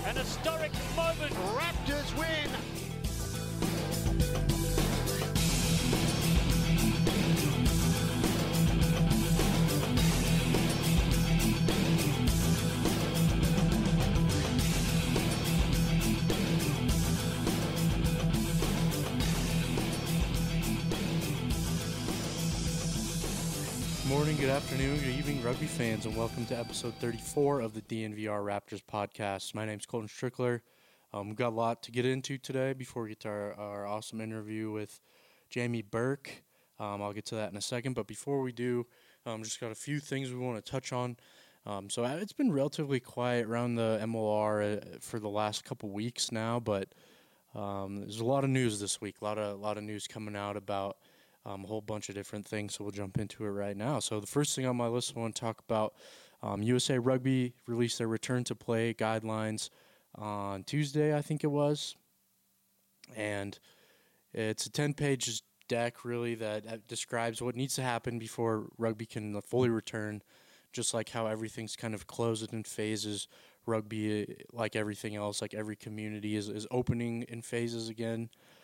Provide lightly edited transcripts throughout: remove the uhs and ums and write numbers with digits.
An historic moment. Raptors win. Good morning, good afternoon, good evening, rugby fans, and welcome to episode 34 of the DNVR Raptors podcast. My name's Colton Strickler. We've got a lot to get into today before we get to our awesome interview with Jamie Burke. I'll get to that in a second, but before we do, just got a few things we want to touch on. So it's been relatively quiet around the MLR for the last couple weeks now, but there's a lot of news this week, a lot of news coming out about a whole bunch of different things, so we'll jump into it right now. So the first thing on my list I want to talk about, USA Rugby released their return to play guidelines on Tuesday, I think it was. And it's a 10-page deck, really, that describes what needs to happen before rugby can fully return, just like how everything's kind of closed in phases. Rugby, like everything else, like every community, is opening in phases again.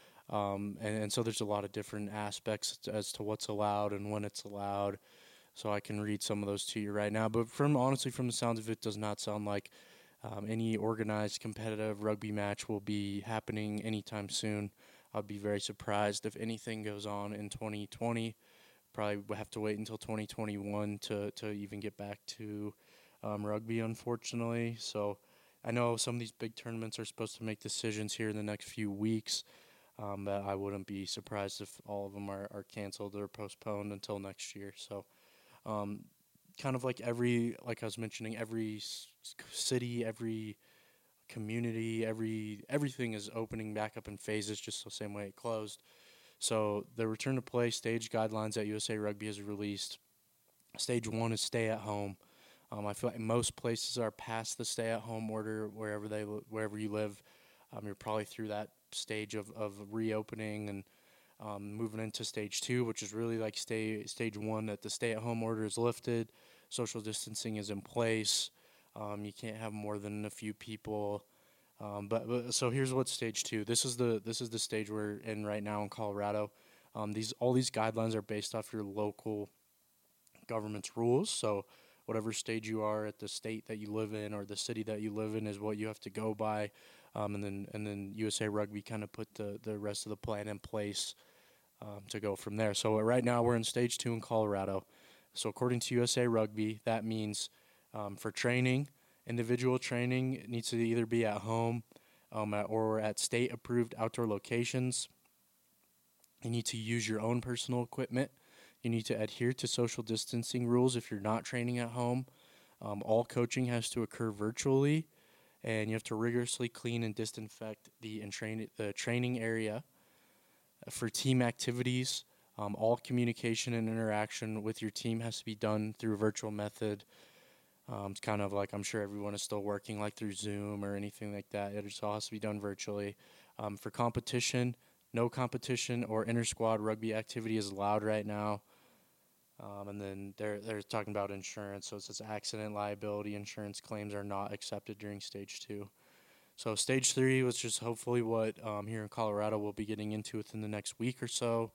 And so there's a lot of different aspects as to what's allowed and when it's allowed. So I can read some of those to you right now. But honestly, from the sounds of it, does not sound like any organized competitive rugby match will be happening anytime soon. I'd be very surprised if anything goes on in 2020. Probably we'll have to wait until 2021 to even get back to rugby, unfortunately. So I know some of these big tournaments are supposed to make decisions here in the next few weeks. But I wouldn't be surprised if all of them are canceled or postponed until next year. So kind of like like I was mentioning, every city, every community, everything is opening back up in phases, just the same way it closed. So the return to play stage guidelines that USA Rugby has released. Stage 1 is stay at home. I feel like most places are past the stay at home order wherever you live. You're probably through that stage of reopening and moving into stage 2, which is really like stage 1, that the stay-at-home order is lifted, social distancing is in place, you can't have more than a few people. But so here's what stage 2. This is the stage we're in right now in Colorado. All these guidelines are based off your local government's rules. So whatever stage you are at the state that you live in or the city that you live in is what you have to go by. And then USA Rugby kind of put the rest of the plan in place to go from there. So right now we're in stage 2 in Colorado. So according to USA Rugby, that means for training, individual training needs to either be at home or at state-approved outdoor locations. You need to use your own personal equipment. You need to adhere to social distancing rules if you're not training at home. All coaching has to occur virtually, and you have to rigorously clean and disinfect the training area. For team activities, all communication and interaction with your team has to be done through a virtual method. It's kind of like, I'm sure everyone is still working like through Zoom or anything like that. It just all has to be done virtually. For competition, no competition or inter-squad rugby activity is allowed right now. And then they're talking about insurance. So it says accident liability insurance claims are not accepted during stage 2. So stage 3 was just hopefully what here in Colorado we'll be getting into within the next week or so.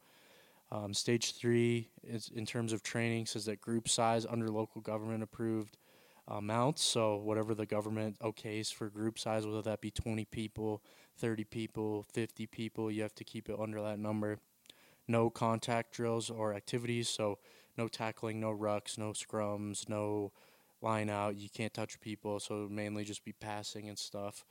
Stage 3 is in terms of training says that group size under local government approved amounts. So whatever the government okays for group size, whether that be 20 people, 30 people, 50 people, you have to keep it under that number. No contact drills or activities, so no tackling, no rucks, no scrums, no line out. You can't touch people, so mainly just be passing and stuff.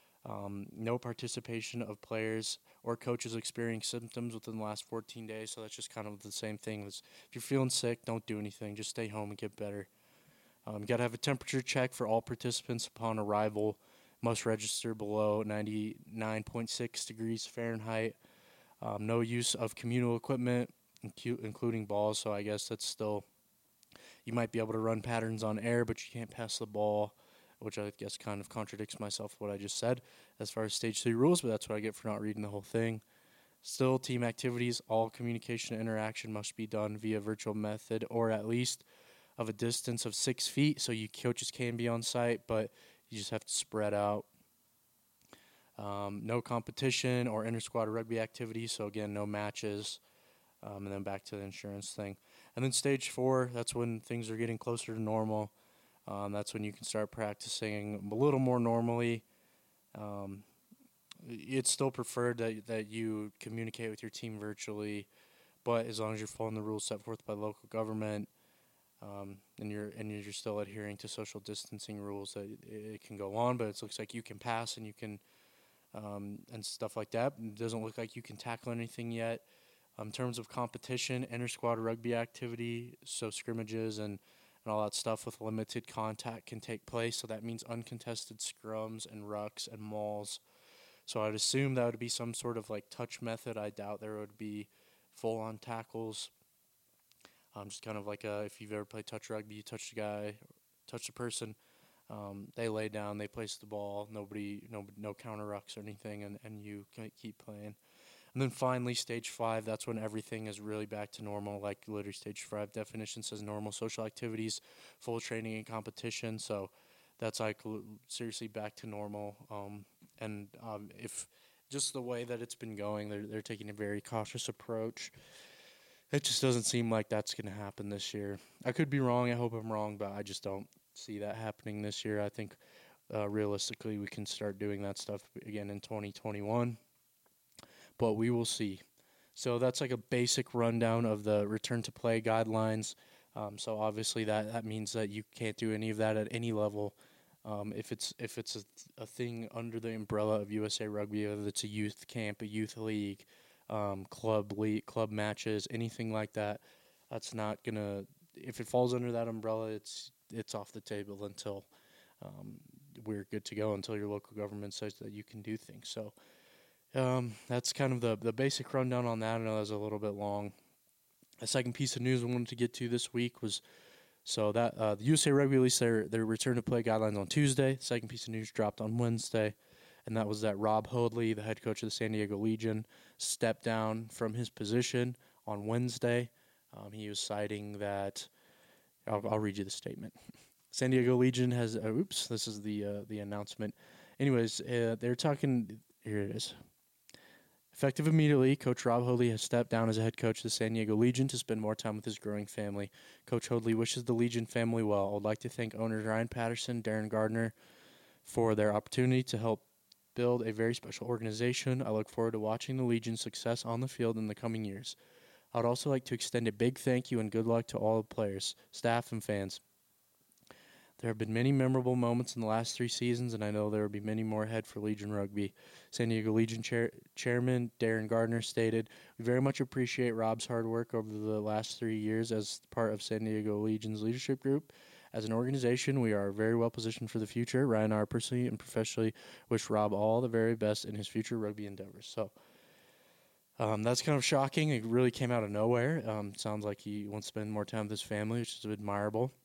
No participation of players or coaches experiencing symptoms within the last 14 days, so that's just kind of the same thing. If you're feeling sick, don't do anything. Just stay home and get better. You got to have a temperature check for all participants upon arrival. Must register below 99.6 degrees Fahrenheit. No use of communal equipment, including balls, so I guess that's still, you might be able to run patterns on air, but you can't pass the ball, which I guess kind of contradicts myself what I just said as far as stage 3 rules, but that's what I get for not reading the whole thing. Still, team activities, all communication and interaction must be done via virtual method or at least of a distance of 6 feet, so you coaches can be on site, but you just have to spread out. No competition or inter-squad rugby activities, so again, no matches, and then back to the insurance thing. And then stage 4, that's when things are getting closer to normal. That's when you can start practicing a little more normally. Um, it's still preferred that you communicate with your team virtually, but as long as you're following the rules set forth by local government, and you're still adhering to social distancing rules, that it can go on. But it looks like you can pass and you can and stuff like that. It doesn't look like you can tackle anything yet. In terms of competition, inter-squad rugby activity, so scrimmages and all that stuff with limited contact can take place. So that means uncontested scrums and rucks and mauls. So I'd assume that would be some sort of like touch method. I doubt there would be full-on tackles. Just kind of like if you've ever played touch rugby, you touch the guy, touch the person, they lay down, they place the ball, no counter rucks or anything, and you keep playing. And then finally, stage 5, that's when everything is really back to normal. Like literally, stage 5 definition says normal social activities, full training and competition. So that's like seriously back to normal. And if just the way that it's been going, they're taking a very cautious approach. It just doesn't seem like that's going to happen this year. I could be wrong. I hope I'm wrong, but I just don't see that happening this year. I think realistically we can start doing that stuff again in 2021, but we will see. So that's like a basic rundown of the return to play guidelines. So obviously that means that you can't do any of that at any level. If it's a thing under the umbrella of USA Rugby, whether it's a youth camp, a youth league, club matches, anything like that, that's not gonna. If it falls under that umbrella, it's off the table until we're good to go. Until your local government says that you can do things. So that's kind of the basic rundown on that. I know that was a little bit long. A second piece of news I wanted to get to this week was that the USA Rugby released their return to play guidelines on Tuesday. The second piece of news dropped on Wednesday, and that was that Rob Hoadley, the head coach of the San Diego Legion, stepped down from his position on Wednesday. He was citing that. I'll read you the statement. San Diego Legion has. This is the announcement. Anyways, they're talking. Here it is. Effective immediately, Coach Rob Hoadley has stepped down as a head coach of the San Diego Legion to spend more time with his growing family. Coach Hoadley wishes the Legion family well. I would like to thank owners Ryan Patterson, Darren Gardner for their opportunity to help build a very special organization. I look forward to watching the Legion's success on the field in the coming years. I would also like to extend a big thank you and good luck to all the players, staff, and fans. There have been many memorable moments in the last 3 seasons, and I know there will be many more ahead for Legion Rugby. San Diego Legion Chairman Darren Gardner stated, "We very much appreciate Rob's hard work over the last 3 years as part of San Diego Legion's leadership group. As an organization, we are very well positioned for the future. Ryan and I personally and professionally wish Rob all the very best in his future rugby endeavors." So that's kind of shocking. It really came out of nowhere. Sounds like he wants to spend more time with his family, which is admirable.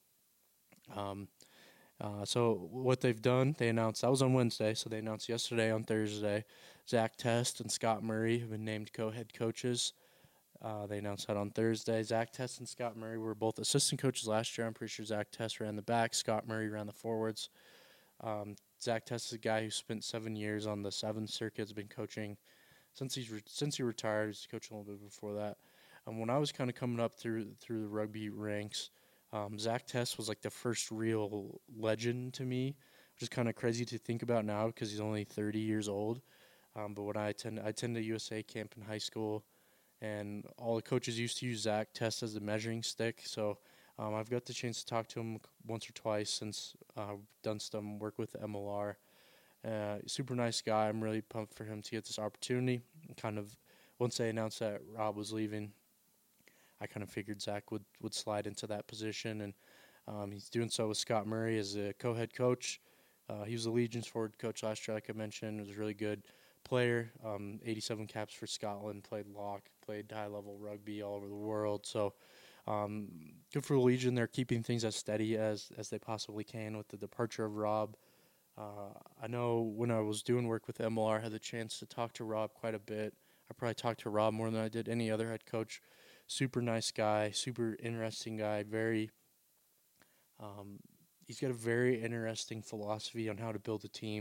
So what they've done, they announced, that was on Wednesday, so they announced yesterday on Thursday, Zach Test and Scott Murray have been named co-head coaches. They announced that on Thursday. Zach Test and Scott Murray were both assistant coaches last year. I'm pretty sure Zach Test ran the back, Scott Murray ran the forwards. Zach Test is a guy who spent 7 years on the 7th Circuit, has been coaching since he retired. He's coaching a little bit before that. When I was kind of coming up through the rugby ranks, Zach Test was like the first real legend to me, which is kind of crazy to think about now because he's only 30 years old. But when I attended a USA camp in high school, and all the coaches used to use Zach Test as the measuring stick. So I've got the chance to talk to him once or twice since I've done some work with the MLR. Super nice guy. I'm really pumped for him to get this opportunity. Kind of once they announced that Rob was leaving, I kind of figured Zach would slide into that position, and he's doing so with Scott Murray as a co-head coach. He was the Legion's forward coach last year, like I mentioned. He was a really good player, 87 caps for Scotland, played lock, played high-level rugby all over the world. So good for the Legion. They're keeping things as steady as they possibly can with the departure of Rob. I know when I was doing work with MLR, I had the chance to talk to Rob quite a bit. I probably talked to Rob more than I did any other head coach. Super nice guy, super interesting guy. He's got a very interesting philosophy on how to build a team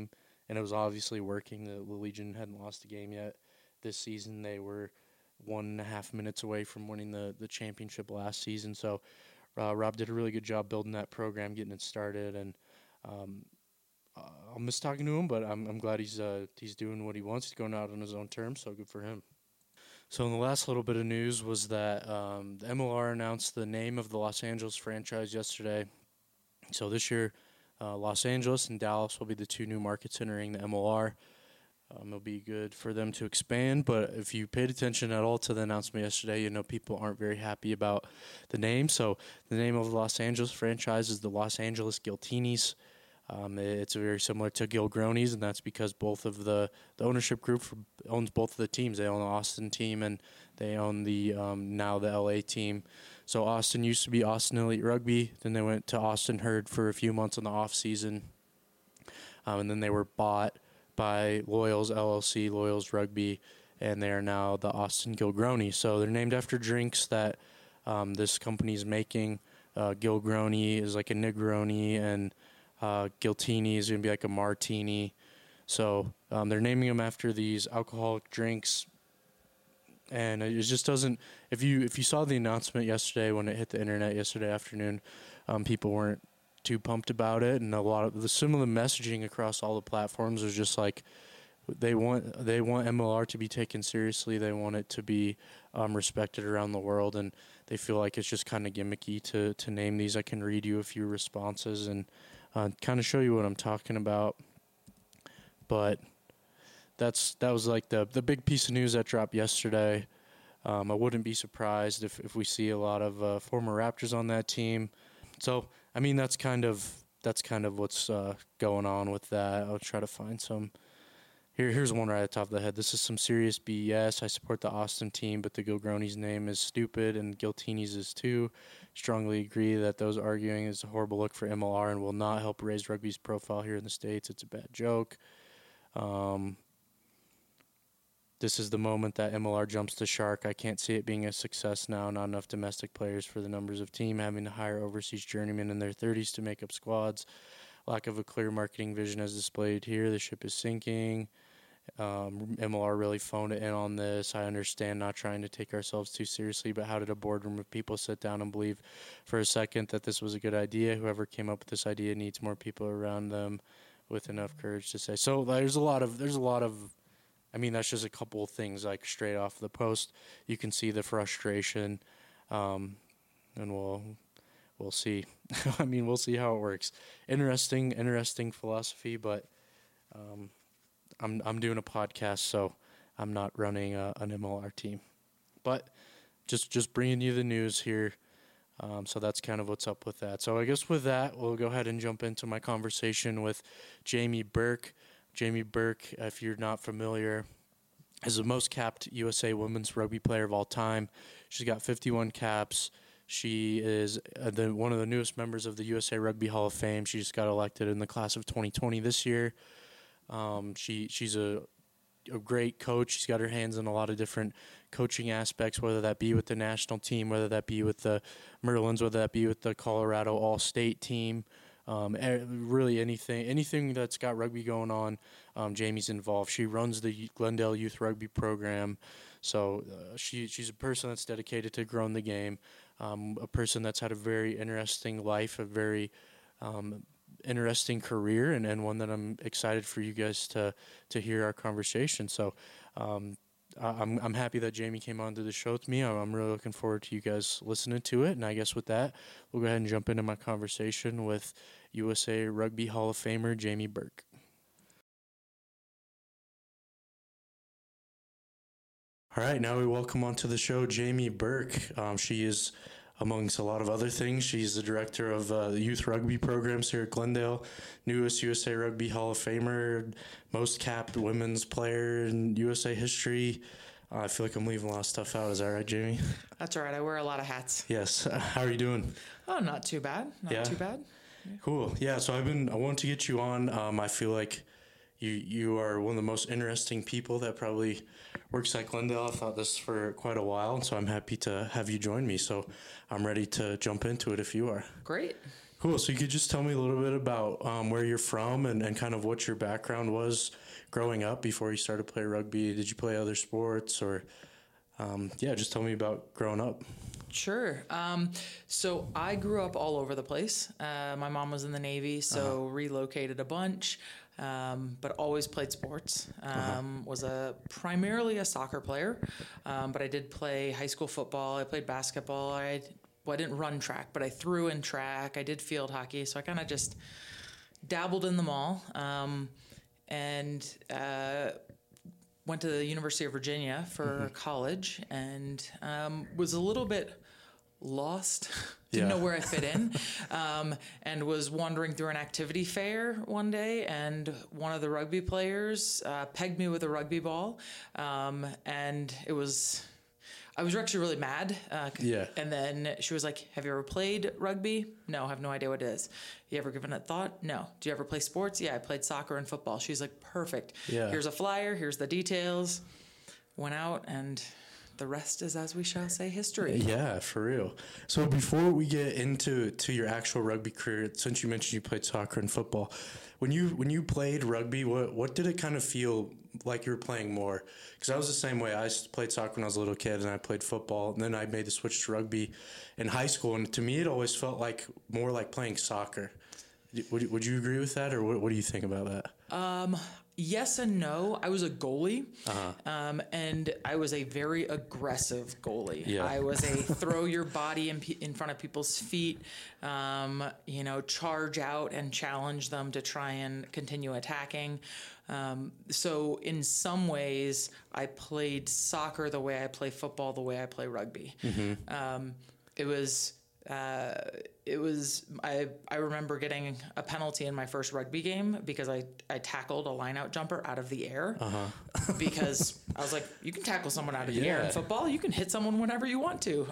and it was obviously working. The Legion hadn't lost a game yet this season. They were 1.5 minutes away from winning the championship last season. So Rob did a really good job building that program, getting it started, and um, I'll miss talking to him, but I'm glad he's doing what he wants. He's going out on his own terms, so good for him. So in the last little bit of news was that the MLR announced the name of the Los Angeles franchise yesterday. So this year, Los Angeles and Dallas will be the two new markets entering the MLR. It'll be good for them to expand, but if you paid attention at all to the announcement yesterday, you know people aren't very happy about the name. So the name of the Los Angeles franchise is the Los Angeles Giltinis. It's very similar to Gilgronis, and that's because both of the ownership group owns both of the teams. They own the Austin team, and they own the now the LA team. So Austin used to be Austin Elite Rugby. Then they went to Austin Herd for a few months in the off season, and then they were bought by Loyals LLC, Loyals Rugby, and they are now the Austin Gilgroni. So they're named after drinks that this company is making. Gilgroni is like a Negroni, and Giltini is going to be like a martini. So they're naming them after these alcoholic drinks. And it just doesn't. If you saw the announcement yesterday when it hit the internet yesterday afternoon, people weren't too pumped about it, and a lot of some of the messaging across all the platforms was just like they want MLR to be taken seriously. They want it to be respected around the world, and they feel like it's just kind of gimmicky to name these. I can read you a few responses and kind of show you what I'm talking about, but that was like the big piece of news that dropped yesterday. I wouldn't be surprised if we see a lot of former Raptors on that team. So I mean that's kind of what's going on with that. I'll try to find some. Here's one right at the top of the head. This is some serious BS. I support the Austin team, but the Gilgroni's name is stupid, and Giltini's is too. Strongly agree that those arguing is a horrible look for MLR and will not help raise rugby's profile here in the States. It's a bad joke. This is the moment that MLR jumps the shark. I can't see it being a success now. Not enough domestic players for the numbers of team, having to hire overseas journeymen in their 30s to make up squads. Lack of a clear marketing vision as displayed here. The ship is sinking. MLR really phoned it in on this. I understand not trying to take ourselves too seriously, but how did a boardroom of people sit down and believe for a second that this was a good idea? Whoever came up with this idea needs more people around them with enough courage to say. So there's a lot of I mean, that's just a couple of things like straight off the post. You can see the frustration, and we'll see. I mean, we'll see how it works. Interesting philosophy, but I'm doing a podcast, so I'm not running an MLR team. But just bringing you the news here. So that's kind of what's up with that. So I guess with that, we'll go ahead and jump into my conversation with Jamie Burke. Jamie Burke, if you're not familiar, is the most capped USA women's rugby player of all time. She's got 51 caps. She is one of the newest members of the USA Rugby Hall of Fame. She just got elected in the class of 2020 this year. She's a great coach. She's got her hands in a lot of different coaching aspects, whether that be with the national team, whether that be with the Merlins, whether that be with the Colorado All-State team. Really anything that's got rugby going on, Jamie's involved. She runs the Glendale Youth Rugby program, so she's a person that's dedicated to growing the game, a person that's had a very interesting life, a very interesting career, and one that I'm excited for you guys to hear our conversation. So I'm happy that Jamie came onto the show with me. I'm really looking forward to you guys listening to it. And I guess with that, we'll go ahead and jump into my conversation with USA Rugby Hall of Famer Jamie Burke. All right, now we welcome onto the show Jamie Burke. She is, amongst a lot of other things, she's the director of the youth rugby programs here at Glendale, newest USA Rugby Hall of Famer, most capped women's player in USA history. I feel like I'm leaving a lot of stuff out. Is that right, Jamie? That's all right. I wear a lot of hats. Yes. How are you doing? Oh, not too bad. Not too bad. Yeah. Cool. Yeah, so I wanted to get you on. I feel like you are one of the most interesting people that probably works at Glendale. I've thought this for quite a while, so I'm happy to have you join me. So I'm ready to jump into it if you are. Great. Cool. So you could just tell me a little bit about where you're from and kind of what your background was growing up before you started to play rugby. Did you play other sports or, just tell me about growing up. Sure. So I grew up all over the place. My mom was in the Navy, so relocated a bunch, but always played sports. Was primarily a soccer player, but I did play high school football. I played basketball. I didn't run track, but I threw in track. I did field hockey, so I kind of just dabbled in them all. And went to the University of Virginia for college and was a little bit lost. Didn't know where I fit in, and was wandering through an activity fair one day, and one of the rugby players pegged me with a rugby ball, and I was actually really mad. And then she was like, "Have you ever played rugby?" "No, I have no idea what it is." "You ever given it thought?" "No." "Do you ever play sports?" "Yeah, I played soccer and football." She's like, "Perfect. Yeah. Here's a flyer. Here's the details." Went out, and the rest is, as we shall say, history. Yeah, for real. So before we get into your actual rugby career, since you mentioned you played soccer and football, when you played rugby, what did it kind of feel like you were playing more? Because I was the same way. I played soccer when I was a little kid, and I played football, and then I made the switch to rugby in high school, and to me it always felt like more like playing soccer. Would you agree with that, or what do you think about that? Yes and no. I was a goalie, and I was a very aggressive goalie. Yeah. I was a throw your body in front of people's feet, charge out and challenge them to try and continue attacking. So in some ways, I played soccer the way I play football, the way I play rugby. I remember getting a penalty in my first rugby game because I tackled a line-out jumper out of the air because I was like, you can tackle someone out of the air in football. You can hit someone whenever you want to.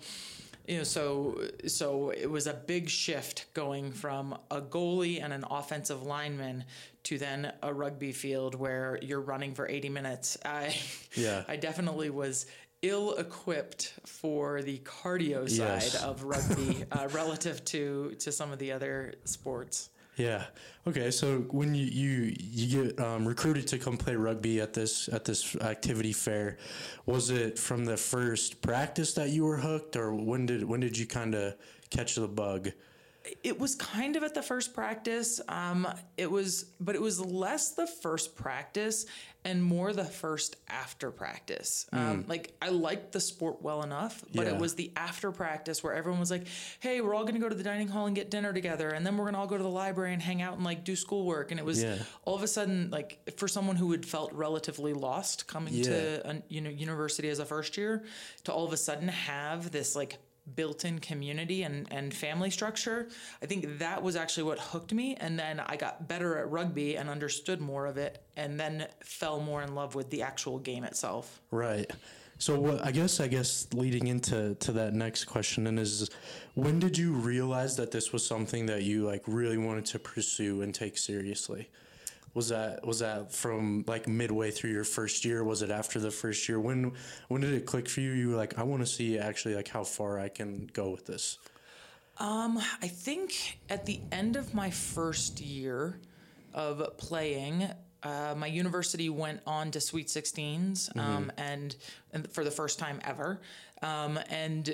So it was a big shift going from a goalie and an offensive lineman to then a rugby field where you're running for 80 minutes. I definitely was ill-equipped for the cardio side of rugby relative to some of the other sports. Yeah. Okay. So when you get recruited to come play rugby at this activity fair, was it from the first practice that you were hooked, or when did you kind of catch the bug? It was kind of at the first practice. It was less the first practice and more the first after practice. Like I liked the sport well enough, but it was the after practice where everyone was like, "Hey, we're all going to go to the dining hall and get dinner together, and then we're going to all go to the library and hang out and like do schoolwork." And it was all of a sudden, like, for someone who had felt relatively lost coming to university as a first year, to all of a sudden have this like built-in community and family structure. I think that was actually what hooked me, and then I got better at rugby and understood more of it, and then fell more in love with the actual game itself. Right. So I guess leading into that next question then is, when did you realize that this was something that you like really wanted to pursue and take seriously? Was that from like midway through your first year? Was it after the first year? When did it click for you? You were like, I want to see actually like how far I can go with this. I think at the end of my first year of playing, my university went on to Sweet 16s, and for the first time ever, and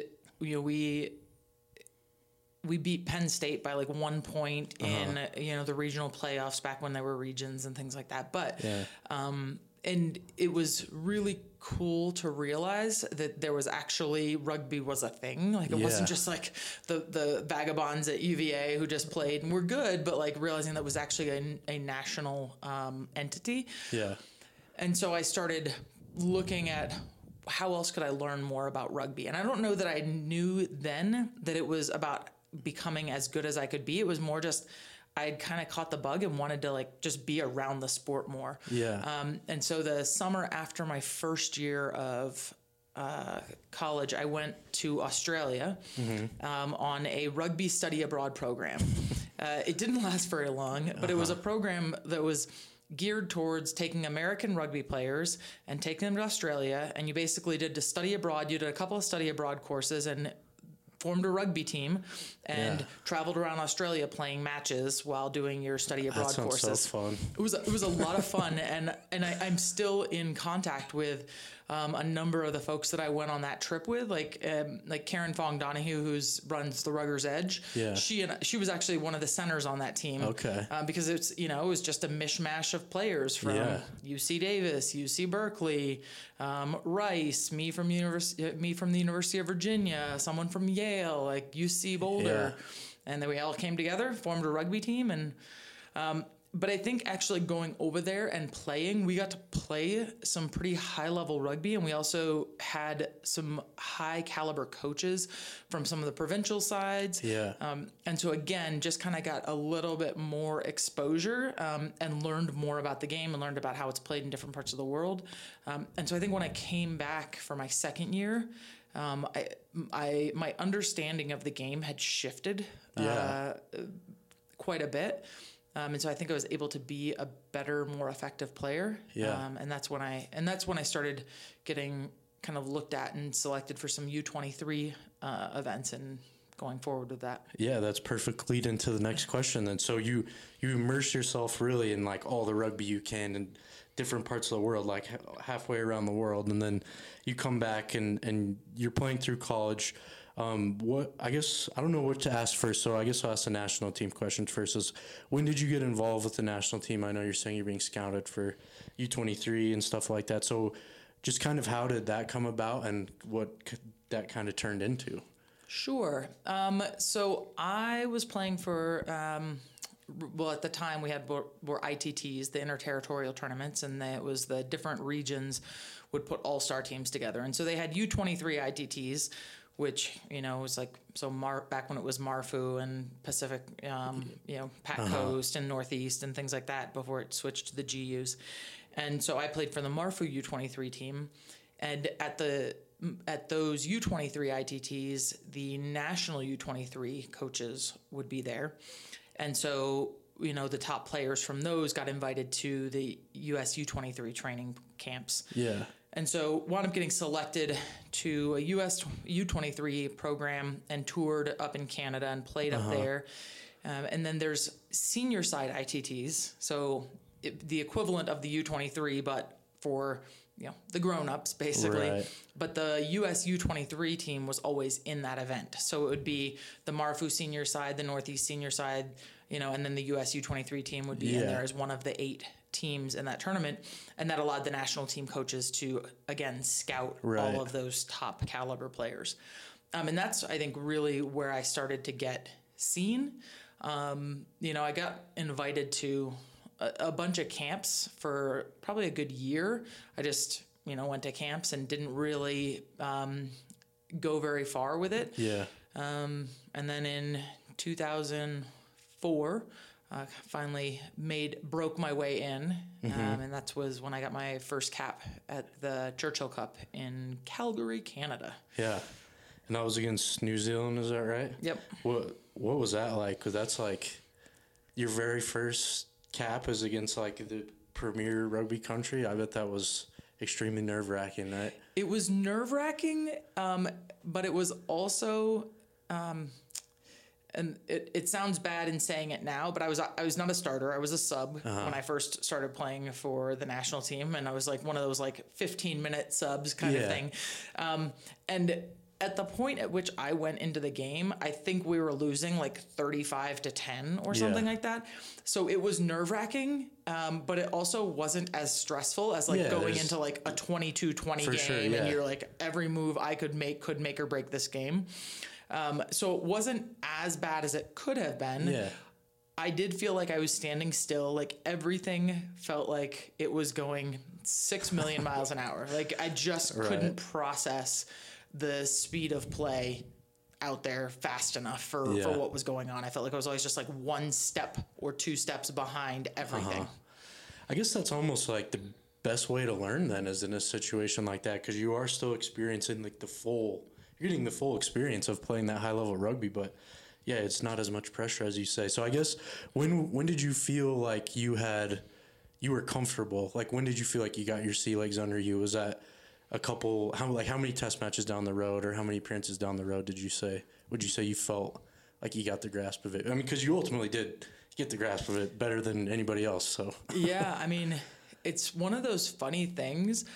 we beat Penn State by like 1 point in the regional playoffs back when there were regions and things like that. But and it was really cool to realize that there was actually rugby was a thing. Like it wasn't just like the vagabonds at UVA who just played and were good, but like realizing that was actually a national entity. Yeah. And so I started looking at how else could I learn more about rugby? And I don't know that I knew then that it was about becoming as good as I could be. It was more just I had kind of caught the bug and wanted to like just be around the sport more. Yeah. And so the summer after my first year of college, I went to Australia on a rugby study abroad program. It didn't last very long, but it was a program that was geared towards taking American rugby players and taking them to Australia. And you basically did to study abroad. You did a couple of study abroad courses, and formed a rugby team and traveled around Australia playing matches while doing your study abroad that sounds courses. So fun. It was a lot of fun, and I'm still in contact with a number of the folks that I went on that trip with, like Karen Fong Donahue, runs the Ruggers Edge. Yeah. She was actually one of the centers on that team. Okay. Because it was just a mishmash of players from UC Davis, UC Berkeley, Rice, me from the University of Virginia, someone from Yale, like UC Boulder, and then we all came together, formed a rugby team, and. But I think actually going over there and playing, we got to play some pretty high-level rugby, and we also had some high-caliber coaches from some of the provincial sides. Yeah. And so, again, just kind of got a little bit more exposure and learned more about the game and learned about how it's played in different parts of the world. And so I think when I came back for my second year, my understanding of the game had shifted quite a bit. And so I think I was able to be a better, more effective player. Yeah. And that's when I started getting kind of looked at and selected for some U23 events and going forward with that. Yeah, that's perfect lead into the next question. And so you immerse yourself really in like all the rugby you can in different parts of the world, like halfway around the world. And then you come back and you're playing through college. I guess I don't know what to ask first, so I guess I'll ask the national team question first. Is when did you get involved with the national team? I know you're saying you're being scouted for U23 and stuff like that. So just kind of how did that come about and what that kind of turned into? Sure. So I was playing for, at the time we had were ITTs, the interterritorial tournaments, and it was the different regions would put all-star teams together. And so they had U23 ITTs, which, was like, back when it was Marfu and Pacific, Pat Coast and Northeast and things like that before it switched to the GUs. And so I played for the Marfu U23 team. And at those U23 ITTs, the national U23 coaches would be there. And so, the top players from those got invited to the US U23 training camps. Yeah. And so wound up getting selected to a US U23 program and toured up in Canada and played up there. And then there's senior side ITTs, so the equivalent of the U23, but for the grown-ups basically. Right. But the US U23 team was always in that event. So it would be the Marfu senior side, the Northeast senior side, and then the US U23 team would be in there as one of the 8 teams in that tournament, and that allowed the national team coaches to again scout all of those top caliber players, and that's I think really where I started to get seen. I got invited to a bunch of camps for probably a good year. I just went to camps and didn't really go very far with it. And then in 2004. Finally broke my way in, and that was when I got my first cap at the Churchill Cup in Calgary, Canada. Yeah, and that was against New Zealand, is that right? Yep. What was that like? Because that's like your very first cap is against like the premier rugby country. I bet that was extremely nerve-wracking, right? It was nerve-wracking, but it was also... and it sounds bad in saying it now, but I was not a starter. I was a sub when I first started playing for the national team, and I was like one of those like 15-minute subs kind of thing. And at the point at which I went into the game, I think we were losing like 35-10 or something like that. So it was nerve-wracking, but it also wasn't as stressful as like going into like a 22-20 game, and you're like every move I could make or break this game. So it wasn't as bad as it could have been. Yeah. I did feel like I was standing still. Like everything felt like it was going 6 million miles an hour. Like I just couldn't process the speed of play out there fast enough for what was going on. I felt like I was always just like one step or 2 steps behind everything. I guess that's almost like the best way to learn then is in a situation like that, because you are still experiencing like you're getting the full experience of playing that high level rugby, but it's not as much pressure as you say. So I guess when did you feel like you were comfortable? Like when did you feel like you got your sea legs under you? Was that a couple, how many test matches down the road or how many appearances down the road would you say you felt like you got the grasp of it? I mean, because you ultimately did get the grasp of it better than anybody else. So yeah, I mean, it's one of those funny things.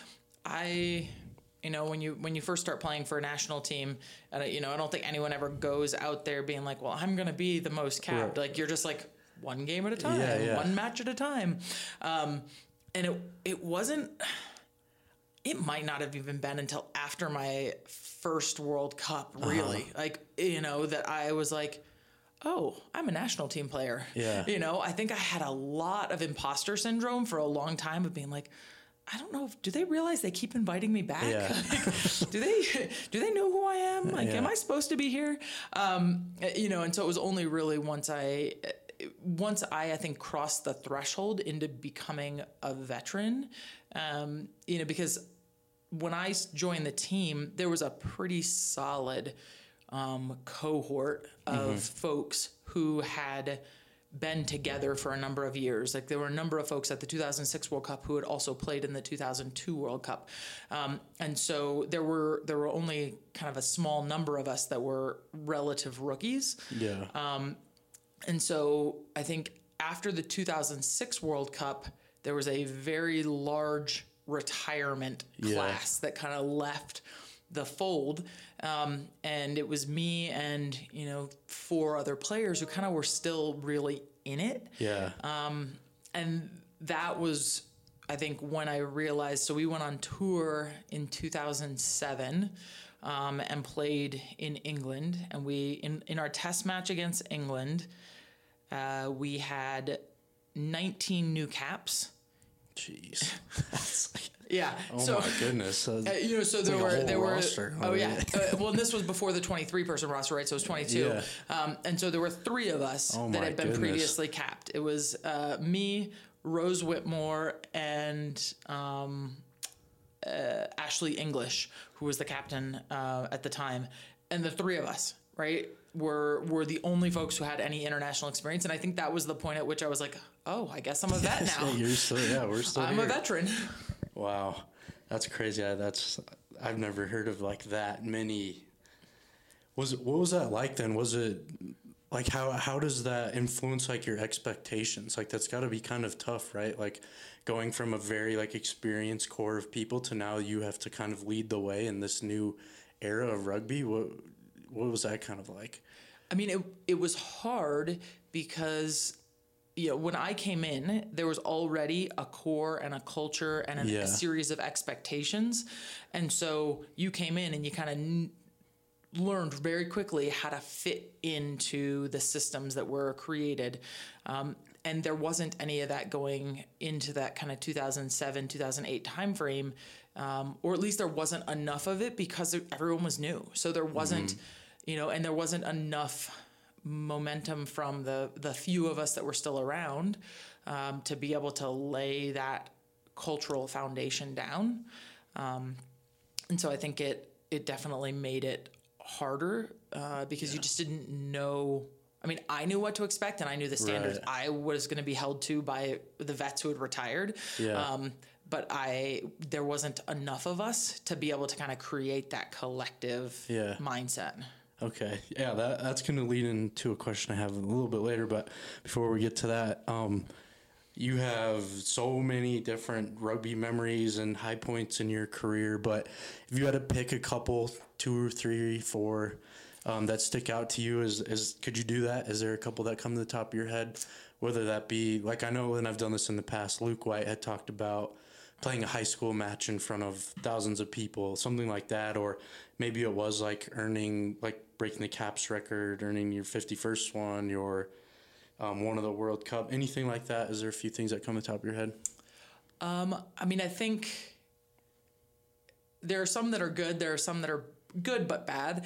When you first start playing for a national team, and I don't think anyone ever goes out there being like, well, I'm going to be the most capped. Right. Like, you're just like one game at a time, one match at a time. And it wasn't, it might not have even been until after my first World Cup, really, that I was like, oh, I'm a national team player. Yeah. I think I had a lot of imposter syndrome for a long time of being like, I don't know. Do they realize they keep inviting me back? Yeah. do they know who I am? Like, am I supposed to be here? And so it was only really once I think crossed the threshold into becoming a veteran, because when I joined the team, there was a pretty solid cohort of folks who had been together for a number of years. Like, there were a number of folks at the 2006 World Cup who had also played in the 2002 World Cup. And so there were only kind of a small number of us that were relative rookies. Yeah. And so I think after the 2006 World Cup, there was a very large retirement class that kind of left the fold. And it was me and, 4 other players who kind of were still really in it. Yeah. And that was, I think, when I realized, so we went on tour in 2007, and played in England. And in our test match against England, we had 19 new caps. Jeez. Yeah. Oh my goodness. So there were roster. Oh yeah. Well, and this was before the 23 person roster, right? So it was 22. Yeah. And so there were 3 of us that had been previously capped. It was me, Rose Whitmore, and Ashley English, who was the captain at the time, and the 3 of us, right, were the only folks who had any international experience. And I think that was the point at which I was like, oh, I guess I'm a vet now. We're still I'm here. a veteran. Wow, that's crazy. I've never heard of like that many. What was that like then? Was it like how does that influence like your expectations? Like, that's got to be kind of tough, right? Like, going from a very like experienced core of people to now you have to kind of lead the way in this new era of rugby. What was that kind of like? I mean, it was hard because, when I came in, there was already a core and a culture and a series of expectations. And so you came in and you kind of learned very quickly how to fit into the systems that were created. And there wasn't any of that going into that kind of 2007, 2008 timeframe, or at least there wasn't enough of it because everyone was new. So there wasn't, and there wasn't enough momentum from the few of us that were still around to be able to lay that cultural foundation down. And so I think it definitely made it harder because you just didn't know. I mean, I knew what to expect and I knew the standards I was going to be held to by the vets who had retired. Yeah. But there wasn't enough of us to be able to kind of create that collective mindset. Okay. Yeah, that's going to lead into a question I have a little bit later. But before we get to that, you have so many different rugby memories and high points in your career. But if you had to pick a couple, 2 or 3, 4, that stick out to you, could you do that? Is there a couple that come to the top of your head? Whether that be, like, I know, and I've done this in the past, Luke White had talked about playing a high school match in front of thousands of people, something like that, or maybe it was like breaking the caps record, earning your 51st one, your one of the World Cup, anything like that. Is there a few things that come to the top of your head? I mean, I think there are some that are good. There are some that are good but bad.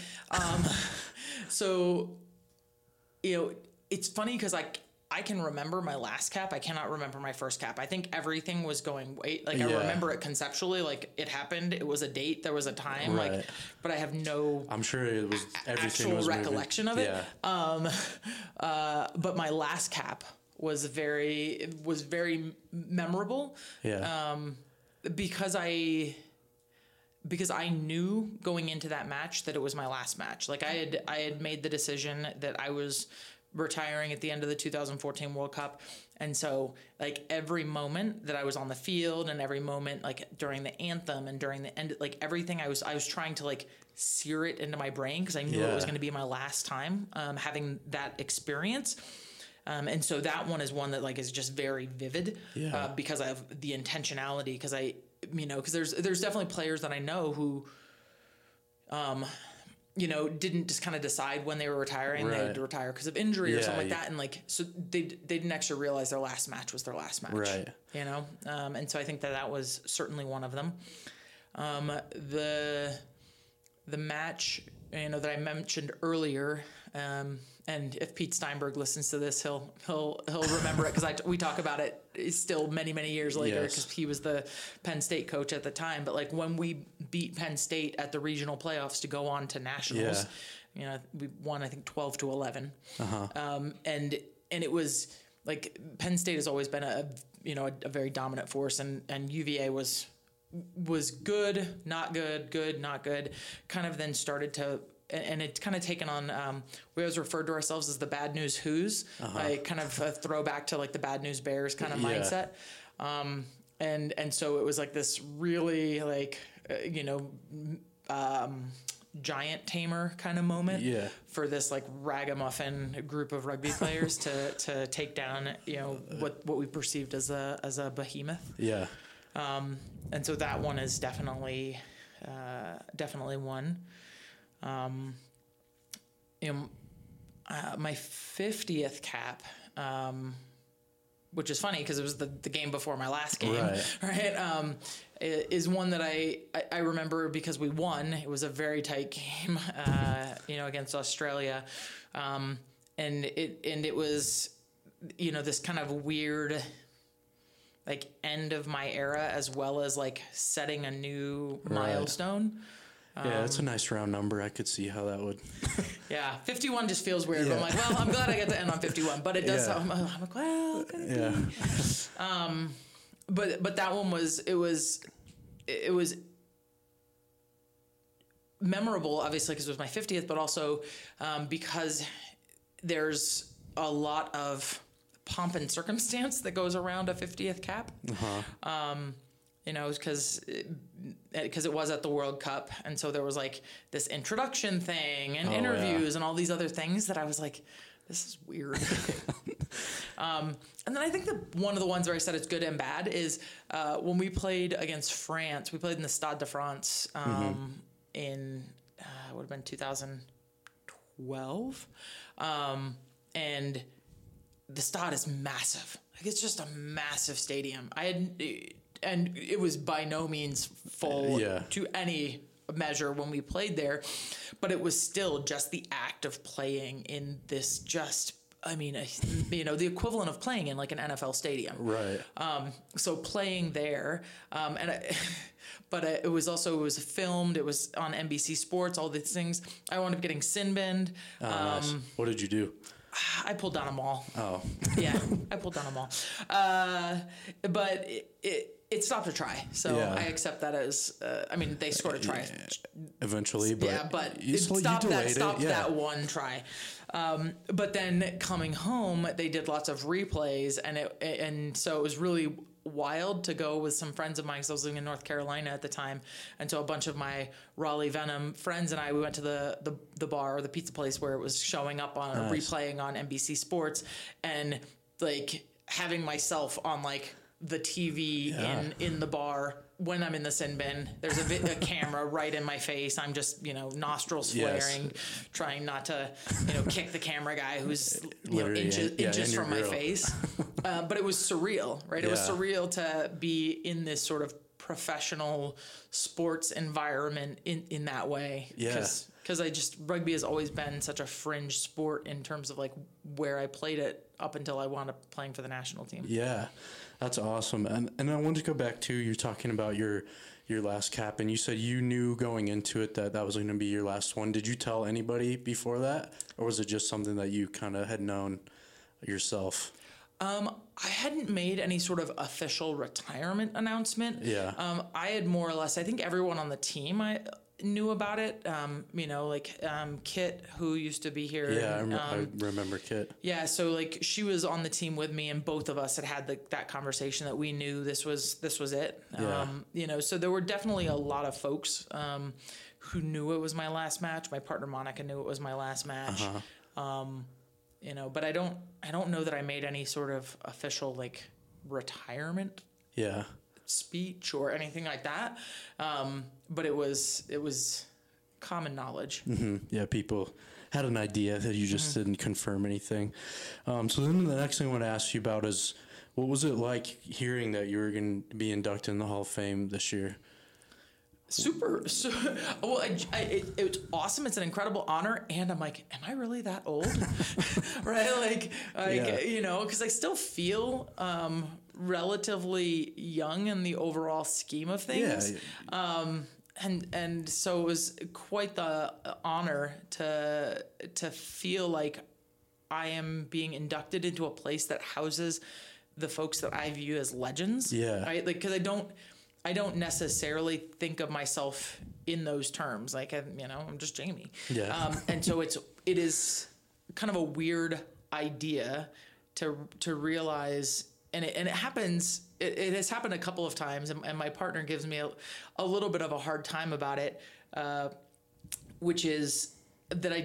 So, it's funny because I can remember my last cap. I cannot remember my first cap. I think everything was going I remember it conceptually, like it happened. It was a date. There was a time, but I have no. I'm sure it was everything actual was recollection moving. of it. Yeah. But my last cap was very memorable. Yeah. Because because I knew going into that match that it was my last match. Like I had made the decision that I was retiring at the end of the 2014 World Cup. And so like every moment that I was on the field and every moment like during the anthem and during the end, like everything I was trying to like sear it into my brain because I knew it was going to be my last time having that experience. And so that one is one that like is just very vivid because of the intentionality. Because because there's definitely players that I know who, didn't just kind of decide when they were retiring. Right. They had to retire because of injury or something like that. And like, so they didn't actually realize their last match was their last match. Right. And so I think that was certainly one of them. The match, that I mentioned earlier, and if Pete Steinberg listens to this, he'll remember it because we talk about it still many years later because he was the Penn State coach at the time. But like when we beat Penn State at the regional playoffs to go on to nationals, we won I think 12-11, and it was like Penn State has always been a very dominant force, and UVA was good, not good, not good, kind of then started to. And it's kind of taken on, we always referred to ourselves as the Bad News Who's, like kind of a throwback to like the Bad News Bears kind of mindset. And so it was like this really like, giant tamer kind of moment for this like ragamuffin group of rugby players to take down, what we perceived as a behemoth. Yeah. And so that one is definitely one. My 50th cap, which is funny because it was the game before my last game, right? Is one that I remember because we won. It was a very tight game, against Australia, and it was, this kind of weird, like end of my era as well as like setting a new milestone. Yeah, it's a nice round number. I could see how that would. 51 just feels weird. But I'm like, well, I'm glad I get to end on 51, but it does. I'm like, well, but that one was memorable, obviously, because it was my 50th, but also because there's a lot of pomp and circumstance that goes around a 50th cap. Because it was at the World Cup. And so there was like this introduction thing and interviews and all these other things that I was like, this is weird. And then I think one of the ones where I said it's good and bad is when we played against France, we played in the Stade de France in, it would have been 2012. And the Stade is massive. Like it's just a massive stadium. And it was by no means full to any measure when we played there, but it was still just the act of playing in this the equivalent of playing in like an NFL stadium. Right. So playing there, but it was filmed. It was on NBC Sports, all these things. I wound up getting sin binned. Nice. What did you do? I pulled down a mall. Oh. Yeah, I pulled down a mall. But it stopped a try. So I accept that as, they scored a try. Eventually, but. But it stopped that one try. But then coming home, they did lots of replays and so it was really wild to go with some friends of mine because I was living in North Carolina at the time, and so a bunch of my Raleigh Venom friends and we went to the bar or the pizza place where it was showing up on replaying on NBC Sports, and like having myself on like the TV in the bar when I'm in the sin bin. There's a camera right in my face. I'm just, nostrils flaring, trying not to, kick the camera guy who's inches from my face. But it was surreal, right? It was surreal to be in this sort of professional sports environment in that way. Yeah. Because rugby has always been such a fringe sport in terms of like where I played it up until I wound up playing for the national team. Yeah. That's awesome. And I wanted to go back to, you're talking about your last cap, and you said you knew going into it that was going to be your last one. Did you tell anybody before that, or was it just something that you kind of had known yourself? I hadn't made any sort of official retirement announcement. Yeah. I had more or less, I think everyone on the team I knew about it. Kit, who used to be here. Yeah, I remember Kit. Yeah, so like she was on the team with me, and both of us had that conversation that we knew this was it. Yeah. So there were definitely a lot of folks who knew it was my last match. My partner Monica knew it was my last match. But I don't know that I made any sort of official like retirement speech or anything like that. But it was common knowledge. Mm-hmm. Yeah, people had an idea that you just didn't confirm anything. So then the next thing I want to ask you about is, what was it like hearing that you were going to be inducted in the Hall of Fame this year? Well, it's awesome. It's an incredible honor. And I'm like, am I really that old? Right? Because I still feel relatively young in the overall scheme of things. Yeah. And so it was quite the honor to feel like I am being inducted into a place that houses the folks that I view as legends. Yeah. Right? Like, because I don't necessarily think of myself in those terms. Like, I'm just Jamie. Yeah. And so it is kind of a weird idea to realize, and it happens. It has happened a couple of times, and my partner gives me a little bit of a hard time about it, which is that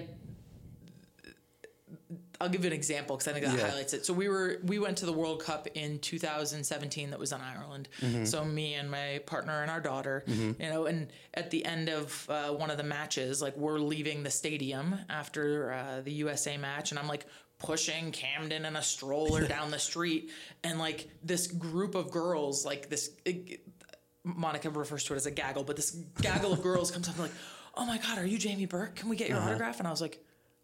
I'll give you an example because I think that highlights it. So we went to the World Cup in 2017 that was in Ireland. So me and my partner and our daughter, and at the end of one of the matches, like we're leaving the stadium after the USA match, and I'm like pushing Camden in a stroller down the street, and like this group of girls, like this, Monica refers to it as a gaggle, but this gaggle of girls comes up and like, oh my God, are you Jamie Burke? Can we get your autograph? And I was like,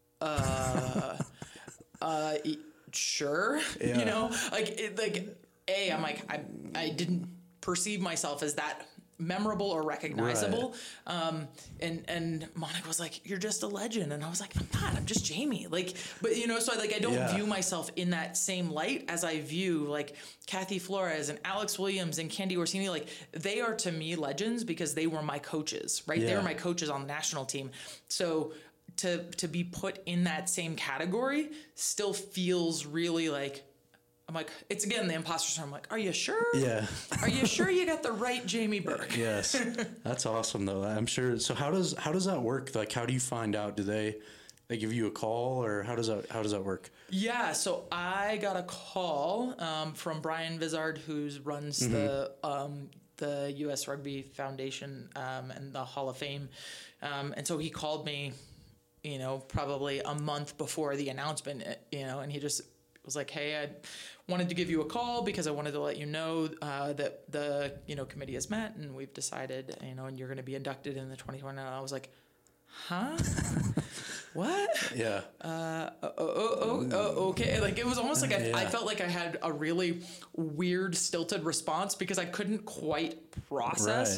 sure. Yeah. I'm like, I didn't perceive myself as that memorable or recognizable. Right. And Monica was like, you're just a legend. And I was like, I'm not, I'm just Jamie. So I don't view myself in that same light as I view like Kathy Flores and Alex Williams and Candy Orsini. Like, they are to me legends because they were my coaches, right? Yeah. They were my coaches on the national team. So to be put in that same category still feels really like, I'm like, it's again the imposter syndrome. I'm like, are you sure? Yeah. Are you sure you got the right Jamie Burke? Yes. That's awesome though. I'm sure. So how does that work? Like, how do you find out? Do they give you a call, or how does that work? Yeah. So I got a call from Brian Vizard, who runs the U.S. Rugby Foundation and the Hall of Fame, and so he called me, probably a month before the announcement, and he just was like, hey, I wanted to give you a call because I wanted to let you know that the committee has met and we've decided, and you're going to be inducted in the 2020. And I was like, huh? What? Yeah. Okay. Like, it was almost like I felt like I had a really weird, stilted response because I couldn't quite process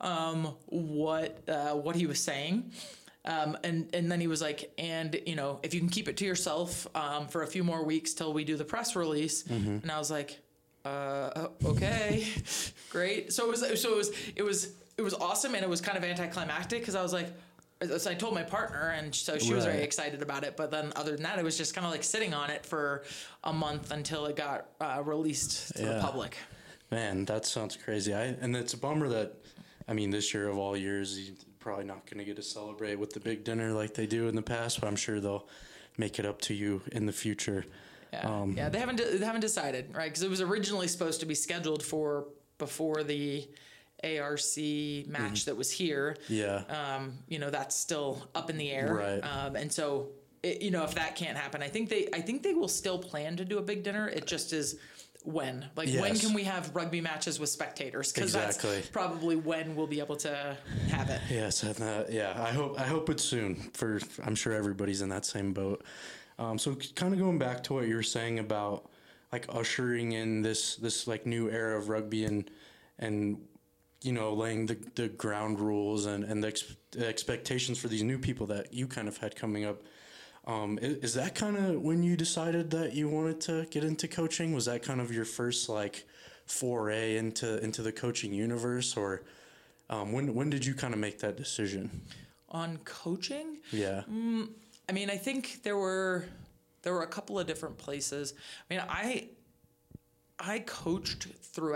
what he was saying. And then he was like, and if you can keep it to yourself for a few more weeks till we do the press release. And I was like, okay, great. So it was awesome, and it was kind of anticlimactic because I was like, so I told my partner, and so she was very excited about it. But then other than that, it was just kind of like sitting on it for a month until it got released to the public. Man, that sounds crazy. And it's a bummer that, this year of all years, you're probably not going to get to celebrate with the big dinner like they do in the past, but I'm sure they'll make it up to you in the future. Yeah, they haven't decided, right? Because it was originally supposed to be scheduled for before the ARC match that was here. Yeah. That's still up in the air. Right. And so, if that can't happen, I think they will still plan to do a big dinner. It just is when. When can we have rugby matches with spectators? Because that's probably when we'll be able to have it. Yes. I hope it's soon. I'm sure everybody's in that same boat. So kind of going back to what you were saying about like ushering in this like new era of rugby and laying the ground rules and the expectations for these new people that you kind of had coming up. Is that kind of when you decided that you wanted to get into coaching? Was that kind of your first like foray into the coaching universe, or when did you kind of make that decision? On coaching? Yeah. I mean, I think there were a couple of different places. I mean, I coached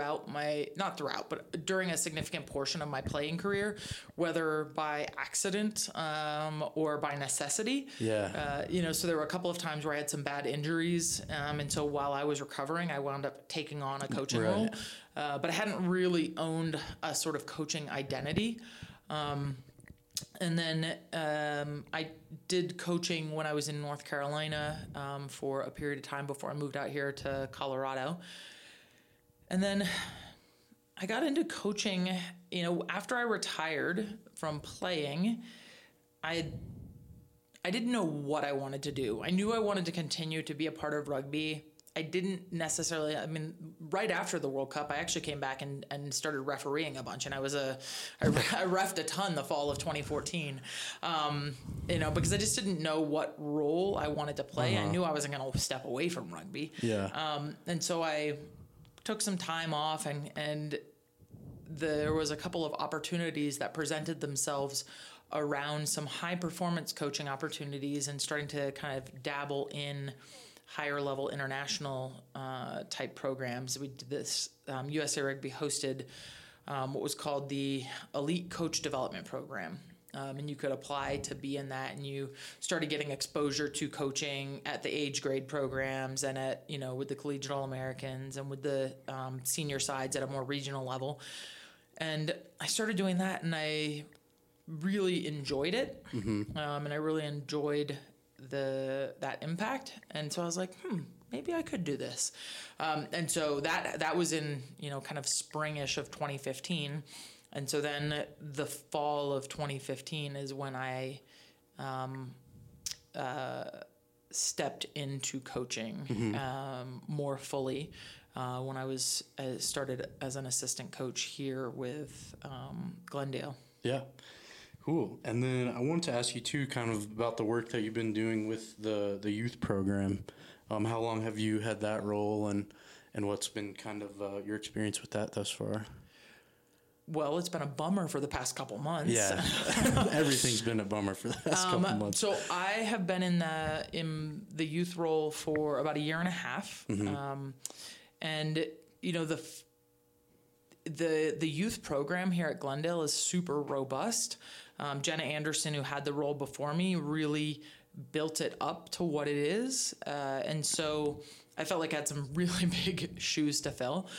but during a significant portion of my playing career, whether by accident or by necessity. Yeah. So there were a couple of times where I had some bad injuries. And so while I was recovering, I wound up taking on a coaching role. But I hadn't really owned a sort of coaching identity. And then I did coaching when I was in North Carolina for a period of time before I moved out here to Colorado. And then I got into coaching, after I retired from playing. I didn't know what I wanted to do. I knew I wanted to continue to be a part of rugby. I didn't necessarily, right after the World Cup, I actually came back and started refereeing a bunch. And I reffed a ton the fall of 2014, because I just didn't know what role I wanted to play. I knew I wasn't going to step away from rugby. Yeah. And so I took some time off and there was a couple of opportunities that presented themselves around some high performance coaching opportunities and starting to kind of dabble in higher level international type programs. We did this, USA Rugby hosted what was called the Elite Coach Development Program. And you could apply to be in that, and you started getting exposure to coaching at the age grade programs and at, with the Collegiate All-Americans and with the senior sides at a more regional level. And I started doing that, and I really enjoyed it. And I really enjoyed that impact. And so I was like, maybe I could do this. And so that was in, kind of springish of 2015. And so then the fall of 2015 is when I stepped into coaching more fully when I started as an assistant coach here with Glendale. Yeah. Cool. And then I wanted to ask you too, kind of about the work that you've been doing with the youth program. How long have you had that role, and what's been kind of your experience with that thus far? Well, it's been a bummer for the past couple months. Yeah, everything's been a bummer for the past couple months. So I have been in the youth role for about a year and a half, and the youth program here at Glendale is super robust. Jenna Anderson, who had the role before me, really built it up to what it is, and so I felt like I had some really big shoes to fill.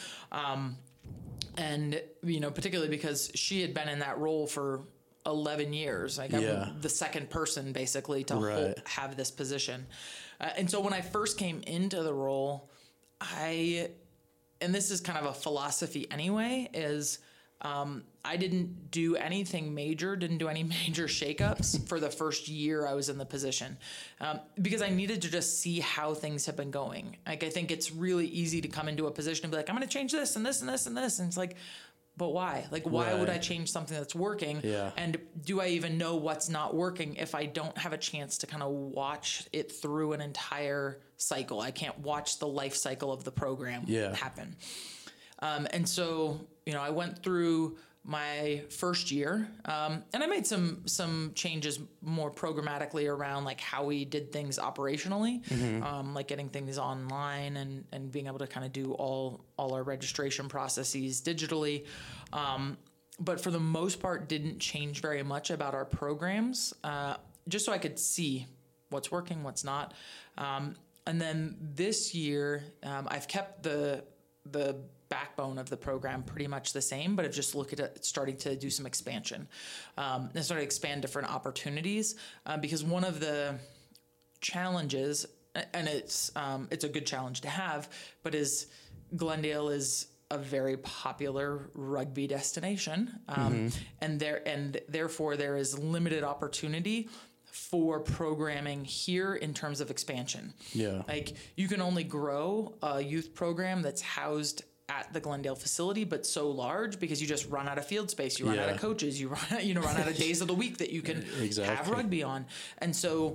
And, particularly because she had been in that role for 11 years. Like I'm the second person basically to have this position. And so when I first came into the role, and this is kind of a philosophy anyway, is I didn't do anything major, didn't do any major shakeups for the first year I was in the position, because I needed to just see how things have been going. Like, I think it's really easy to come into a position and be like, I'm going to change this and this and this and this. And it's like, but why? Like, why would I change something that's working? Yeah. And do I even know what's not working if I don't have a chance to kind of watch it through an entire cycle? I can't watch the life cycle of the program happen. And so, I went through my first year, and I made some changes more programmatically around like how we did things operationally, like getting things online and being able to kind of do all our registration processes digitally. But for the most part, didn't change very much about our programs, just so I could see what's working, what's not. And then this year, I've kept the backbone of the program pretty much the same, but I've just looked at it, starting to do some expansion, and started to expand different opportunities, because one of the challenges, and it's a good challenge to have, but is Glendale is a very popular rugby destination, and therefore there is limited opportunity for programming here in terms of expansion. Yeah, like you can only grow a youth program that's housed at the Glendale facility, but so large because you just run out of field space, you run out of coaches, you run out of days of the week that you can have rugby on. And so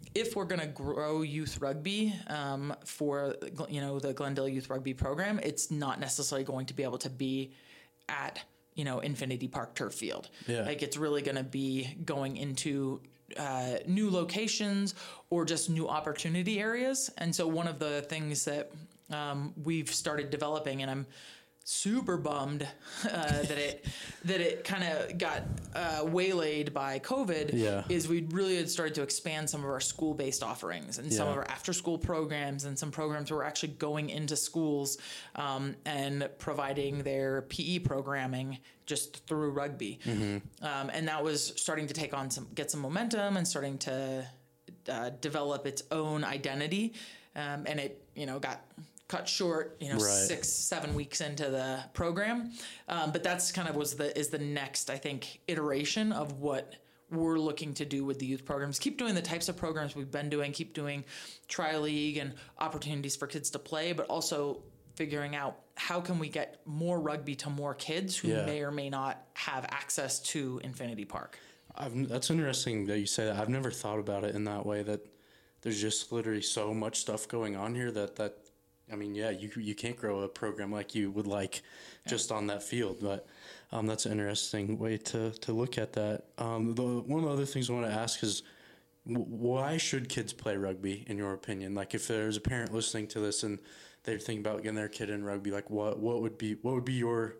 if we're going to grow youth rugby for, the Glendale Youth Rugby program, it's not necessarily going to be able to be at, Infinity Park Turf Field. Yeah. Like, it's really going to be going into new locations or just new opportunity areas. And so one of the things that we've started developing, and I'm super bummed that it kind of got waylaid by COVID, is we really had started to expand some of our school-based offerings and some of our after-school programs, and some programs were actually going into schools and providing their PE programming just through rugby. And that was starting to get some momentum and starting to develop its own identity. And it, got cut short, 6-7 weeks into the program. But that's kind of is the next, I think, iteration of what we're looking to do with the youth programs. Keep doing the types of programs we've been doing, keep doing tri-league and opportunities for kids to play, but also figuring out how can we get more rugby to more kids who may or may not have access to Infinity Park. That's interesting that you say that. I've never thought about it in that way, that there's just literally so much stuff going on here that you can't grow a program like you would like just on that field. But that's an interesting way to look at that. One of the other things I want to ask is, why should kids play rugby, in your opinion? Like, if there's a parent listening to this and they're thinking about getting their kid in rugby, like what would be your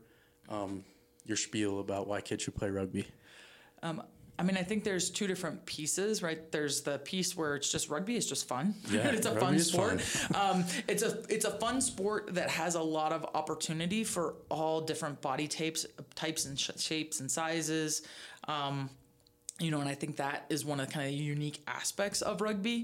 spiel about why kids should play rugby? I think there's two different pieces, right? There's the piece where it's just rugby is just fun. Yeah, it's a fun sport. It's a fun sport that has a lot of opportunity for all different body types and shapes and sizes. And I think that is one of the kind of unique aspects of rugby.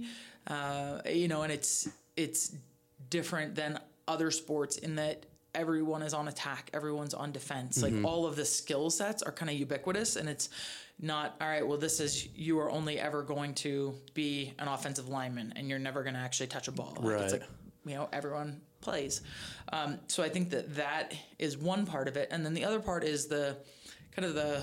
And it's different than other sports in that everyone is on attack, everyone's on defense. Like, all of the skill sets are kind of ubiquitous, and it's not, all right, well, you are only ever going to be an offensive lineman and you're never going to actually touch a ball. Like, it's like, everyone plays. So I think that is one part of it. And then the other part is the kind of the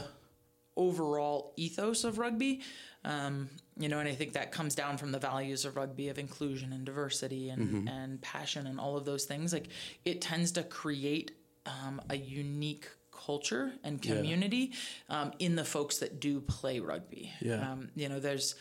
overall ethos of rugby. And I think that comes down from the values of rugby, of inclusion and diversity and passion and all of those things. Like, it tends to create a unique culture and community in the folks that do play rugby. There's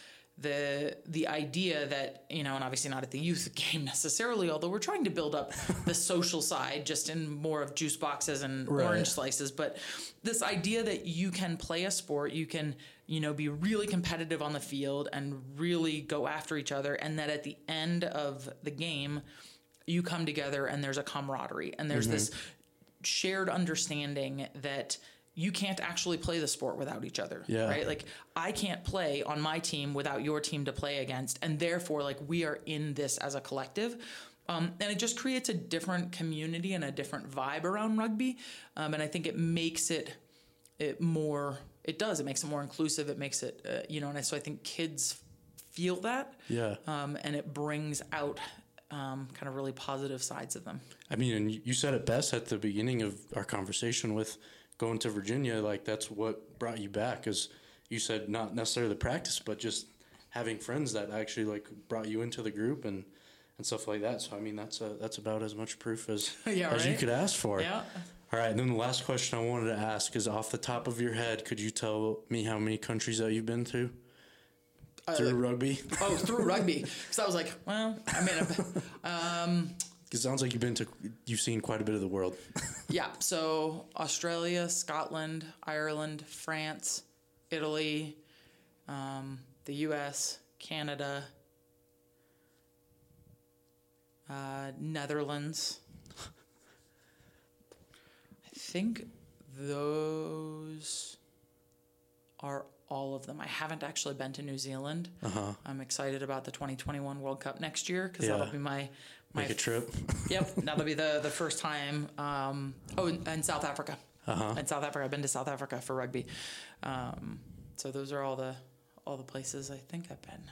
the idea that, and obviously not at the youth game necessarily, although we're trying to build up the social side just in more of juice boxes and orange slices, but this idea that you can play a sport, you can, be really competitive on the field and really go after each other, and that at the end of the game, you come together and there's a camaraderie and there's this shared understanding that you can't actually play the sport without each other, right? Like, I can't play on my team without your team to play against, and therefore, like, we are in this as a collective. And it just creates a different community and a different vibe around rugby. And I think it makes it more inclusive. It makes it, and so I think kids feel that. And it brings out kind of really positive sides of them. And you said it best at the beginning of our conversation with going to Virginia. Like, that's what brought you back, because you said not necessarily the practice, but just having friends that actually, like, brought you into the group and stuff like that. So, that's about as much proof as you could ask for. Yeah. All right. And then the last question I wanted to ask is, off the top of your head, could you tell me how many countries that you've been to? Through rugby? Oh, through rugby. Because I was like, well, it sounds like you've seen quite a bit of the world. Yeah. So Australia, Scotland, Ireland, France, Italy, the U.S., Canada, Netherlands. I think those are all of them. I haven't actually been to New Zealand. I'm excited about the 2021 World Cup next year, because that'll be my make a trip. Yep, that'll be the first time. And South Africa. In South Africa, I've been to South Africa for rugby. So those are all the places I think I've been.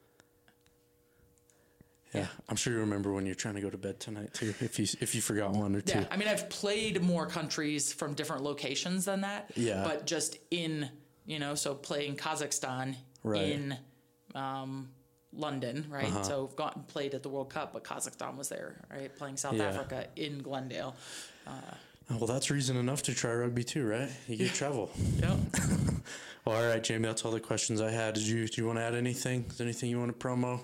Yeah, I'm sure you remember when you're trying to go to bed tonight too, if you forgot one or two. Yeah, I've played more countries from different locations than that. Yeah. But just in, so playing Kazakhstan in London, right? So I've gone and played at the World Cup, but Kazakhstan was there, right? Playing South Africa in Glendale. Well, that's reason enough to try rugby too, right? You get travel. Yeah. Well, all right, Jamie, that's all the questions I had. Do you want to add anything? Is there anything you want to promo?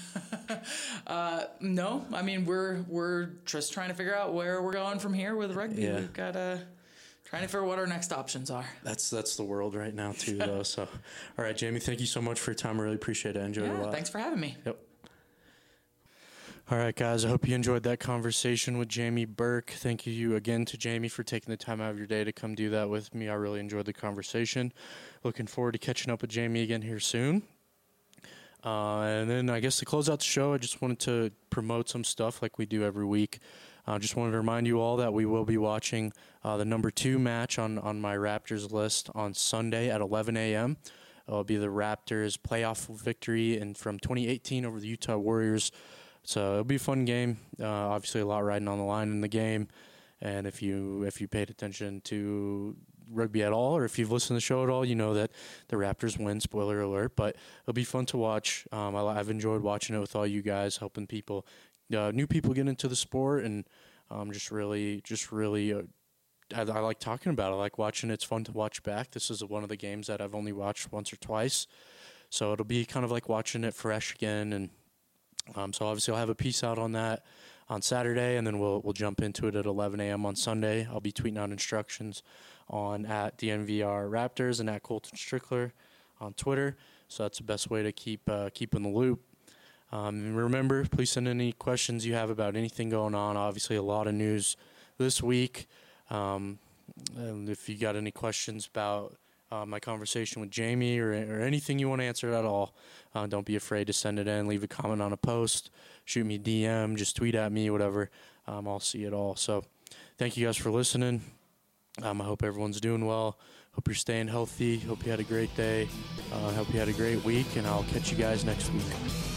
No, I mean, we're just trying to figure out where we're going from here with rugby. Yeah. We've got trying to figure out what our next options are. That's the world right now too, though. So, all right, Jamie, thank you so much for your time. I really appreciate it. I enjoyed it a lot. Thanks for having me. Yep. All right, guys, I hope you enjoyed that conversation with Jamie Burke. Thank you again to Jamie for taking the time out of your day to come do that with me. I really enjoyed the conversation. Looking forward to catching up with Jamie again here soon. And then I guess to close out the show, I just wanted to promote some stuff like we do every week. Just wanted to remind you all that we will be watching the number 2 match on my Raptors list on Sunday at 11 a.m. It'll be the Raptors' playoff victory from 2018 over the Utah Warriors. So it'll be a fun game. Obviously, a lot riding on the line in the game. And if you paid attention to rugby at all, or if you've listened to the show at all, you know that the Raptors win. Spoiler alert! But it'll be fun to watch. I've enjoyed watching it with all you guys, helping people, new people get into the sport, and just really. I like talking about it. I like watching it. It's fun to watch back. This is one of the games that I've only watched once or twice, so it'll be kind of like watching it fresh again. And so obviously I'll have a piece out on that on Saturday, and then we'll jump into it at 11 a.m. on Sunday. I'll be tweeting out instructions on at DNVR Raptors and at Colton Strickler on Twitter. So that's the best way to keep in the loop. And remember, please send any questions you have about anything going on. Obviously, a lot of news this week. And if you got any questions about my conversation with Jamie or anything you want to answer at all, don't be afraid to send it in. Leave a comment on a post, shoot me a DM, just tweet at me, whatever. I'll see it all. So thank you guys for listening. I hope everyone's doing well. Hope you're staying healthy. Hope you had a great day. Hope you had a great week, and I'll catch you guys next week.